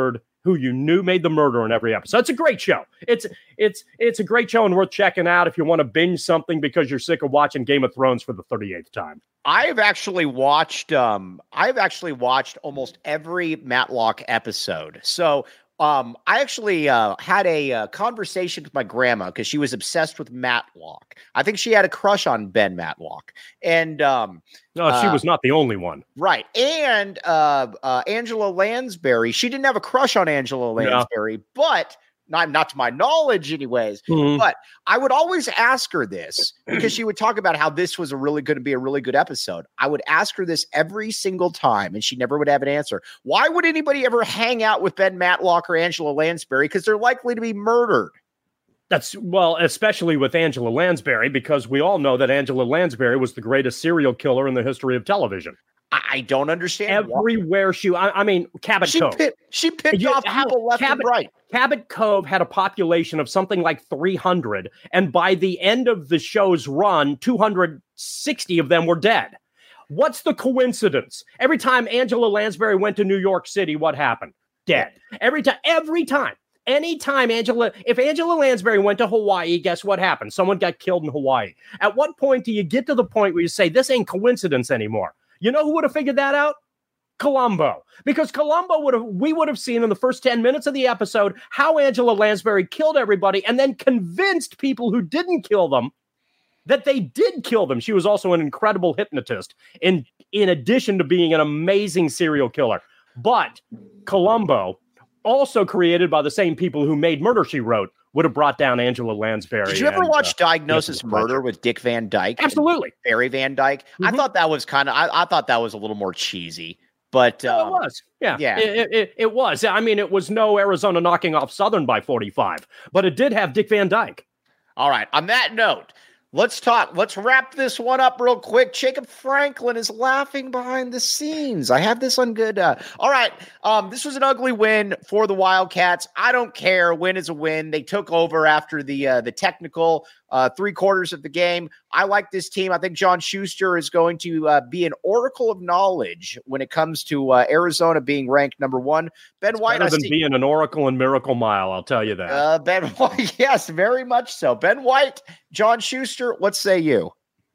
who you knew made the murder in every episode. It's a great show. It's it's it's a great show and worth checking out if you want to binge something because you're sick of watching Game of Thrones for the thirty-eighth time. I've actually watched um I've actually watched almost every Matlock episode. So um I actually uh, had a uh, conversation with my grandma because she was obsessed with Matlock. I think she had a crush on Ben Matlock. And um No, she uh, was not the only one. Right. And uh, uh, Angela Lansbury, she didn't have a crush on Angela Lansbury, no. but not, not to my knowledge anyways, mm-hmm. but I would always ask her this because she would talk about how this was a really going to be a really good episode. I would ask her this every single time and she never would have an answer. Why would anybody ever hang out with Ben Matlock or Angela Lansbury? Because they're likely to be murdered. That's well, especially with Angela Lansbury, because we all know that Angela Lansbury was the greatest serial killer in the history of television. I don't understand. Everywhere why. she, I, I mean, Cabot she Cove. Pit, she picked you, off people left Cabot, and right. Cabot Cove had a population of something like three hundred, and by the end of the show's run, two hundred sixty of them were dead. What's the coincidence? Every time Angela Lansbury went to New York City, what happened? Dead. Every time. Every time. Anytime Angela, if Angela Lansbury went to Hawaii, guess what happened? Someone got killed in Hawaii. At what point do you get to the point where you say, this ain't coincidence anymore? You know who would have figured that out? Columbo. Because Columbo would have, we would have seen in the first ten minutes of the episode how Angela Lansbury killed everybody and then convinced people who didn't kill them that they did kill them. She was also an incredible hypnotist in, in addition to being an amazing serial killer. But Columbo, also created by the same people who made Murder, She Wrote, would have brought down Angela Lansbury. Did you ever and, watch uh, Diagnosis Murder with Dick Van Dyke? Absolutely. Barry Van Dyke. Mm-hmm. I thought that was kind of, I, I thought that was a little more cheesy, but no, um, it was. Yeah, yeah, it, it, it was. I mean, it was no Arizona knocking off Southern by forty-five, but it did have Dick Van Dyke. All right. On that note, let's talk. Let's wrap this one up real quick. Jacob Franklin is laughing behind the scenes. I have this on good. Uh, all right. Um, this was an ugly win for the Wildcats. I don't care. Win is a win. They took over after the uh, the technical uh, three quarters of the game. I like this team. I think John Schuster is going to uh, be an oracle of knowledge when it comes to uh, Arizona being ranked number one. Ben it's White, better than see, being an oracle in Miracle Mile. I'll tell you that. Uh, Ben White, yes, very much so. Ben White, John Schuster. What say you?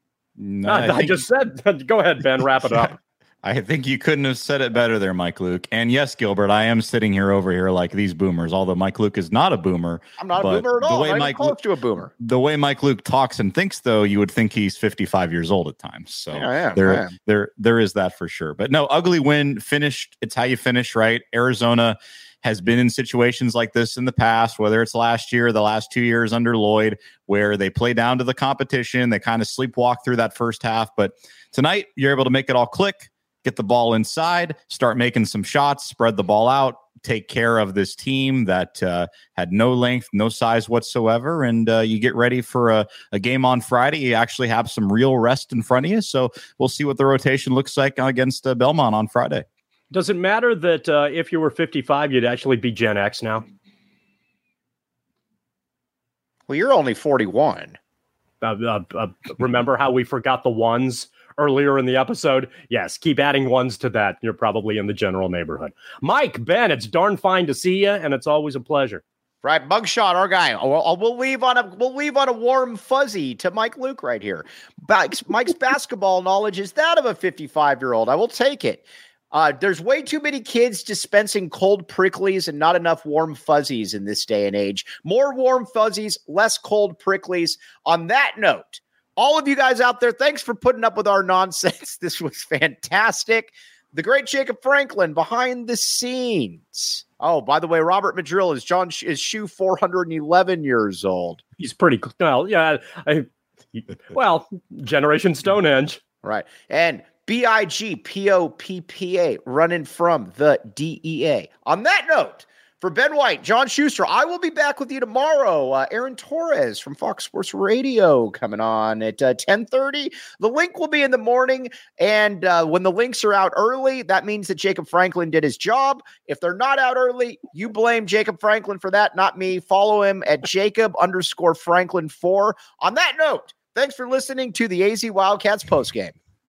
No, I, I just said. Go ahead, Ben. Wrap it up. I think you couldn't have said it better there, Mike Luke. And yes, Gilbert, I am sitting here over here like these boomers, although Mike Luke is not a boomer. I'm not a boomer at all. The way I'm Mike close Luke, to a boomer. The way Mike Luke talks and thinks, though, you would think he's fifty-five years old at times. So yeah, I am, there, I am. there, there is that for sure. But no, ugly win, finished. It's how you finish, right? Arizona has been in situations like this in the past, whether it's last year, the last two years under Lloyd, where they play down to the competition. They kind of sleepwalk through that first half. But tonight, you're able to make it all click. Get the ball inside, start making some shots, spread the ball out, take care of this team that uh, had no length, no size whatsoever, and uh, you get ready for a, a game on Friday. You actually have some real rest in front of you, so we'll see what the rotation looks like against uh, Belmont on Friday. Does it matter that uh, if you were fifty-five, you'd actually be Gen X now? Well, you're only forty-one. Uh, uh, uh, remember how we forgot the ones earlier in the episode? Yes, keep adding ones to that. You're probably in the general neighborhood. Mike, Ben, it's darn fine to see you, and it's always a pleasure. Right, Bugshot, our guy. We'll, we'll leave on a we'll leave on a warm fuzzy to Mike Luke right here. Mike's, Mike's basketball knowledge is that of a fifty-five-year-old. I will take it. Uh, there's way too many kids dispensing cold pricklies and not enough warm fuzzies in this day and age. More warm fuzzies, less cold pricklies. On that note, all of you guys out there, thanks for putting up with our nonsense. This was fantastic. The great Jacob Franklin behind the scenes. Oh, by the way, Robert Madrill is John is Shoe four hundred eleven years old. He's pretty well, yeah. I, well, Generation Stonehenge, right? And B I G P O P P A running from the D E A. On that note, for Ben White, John Schuster, I will be back with you tomorrow. Uh, Aaron Torres from Fox Sports Radio coming on at uh, ten thirty. The link will be in the morning, and uh, when the links are out early, that means that Jacob Franklin did his job. If they're not out early, you blame Jacob Franklin for that, not me. Follow him at Jacob underscore Franklin four. On that note, thanks for listening to the A Z Wildcats postgame.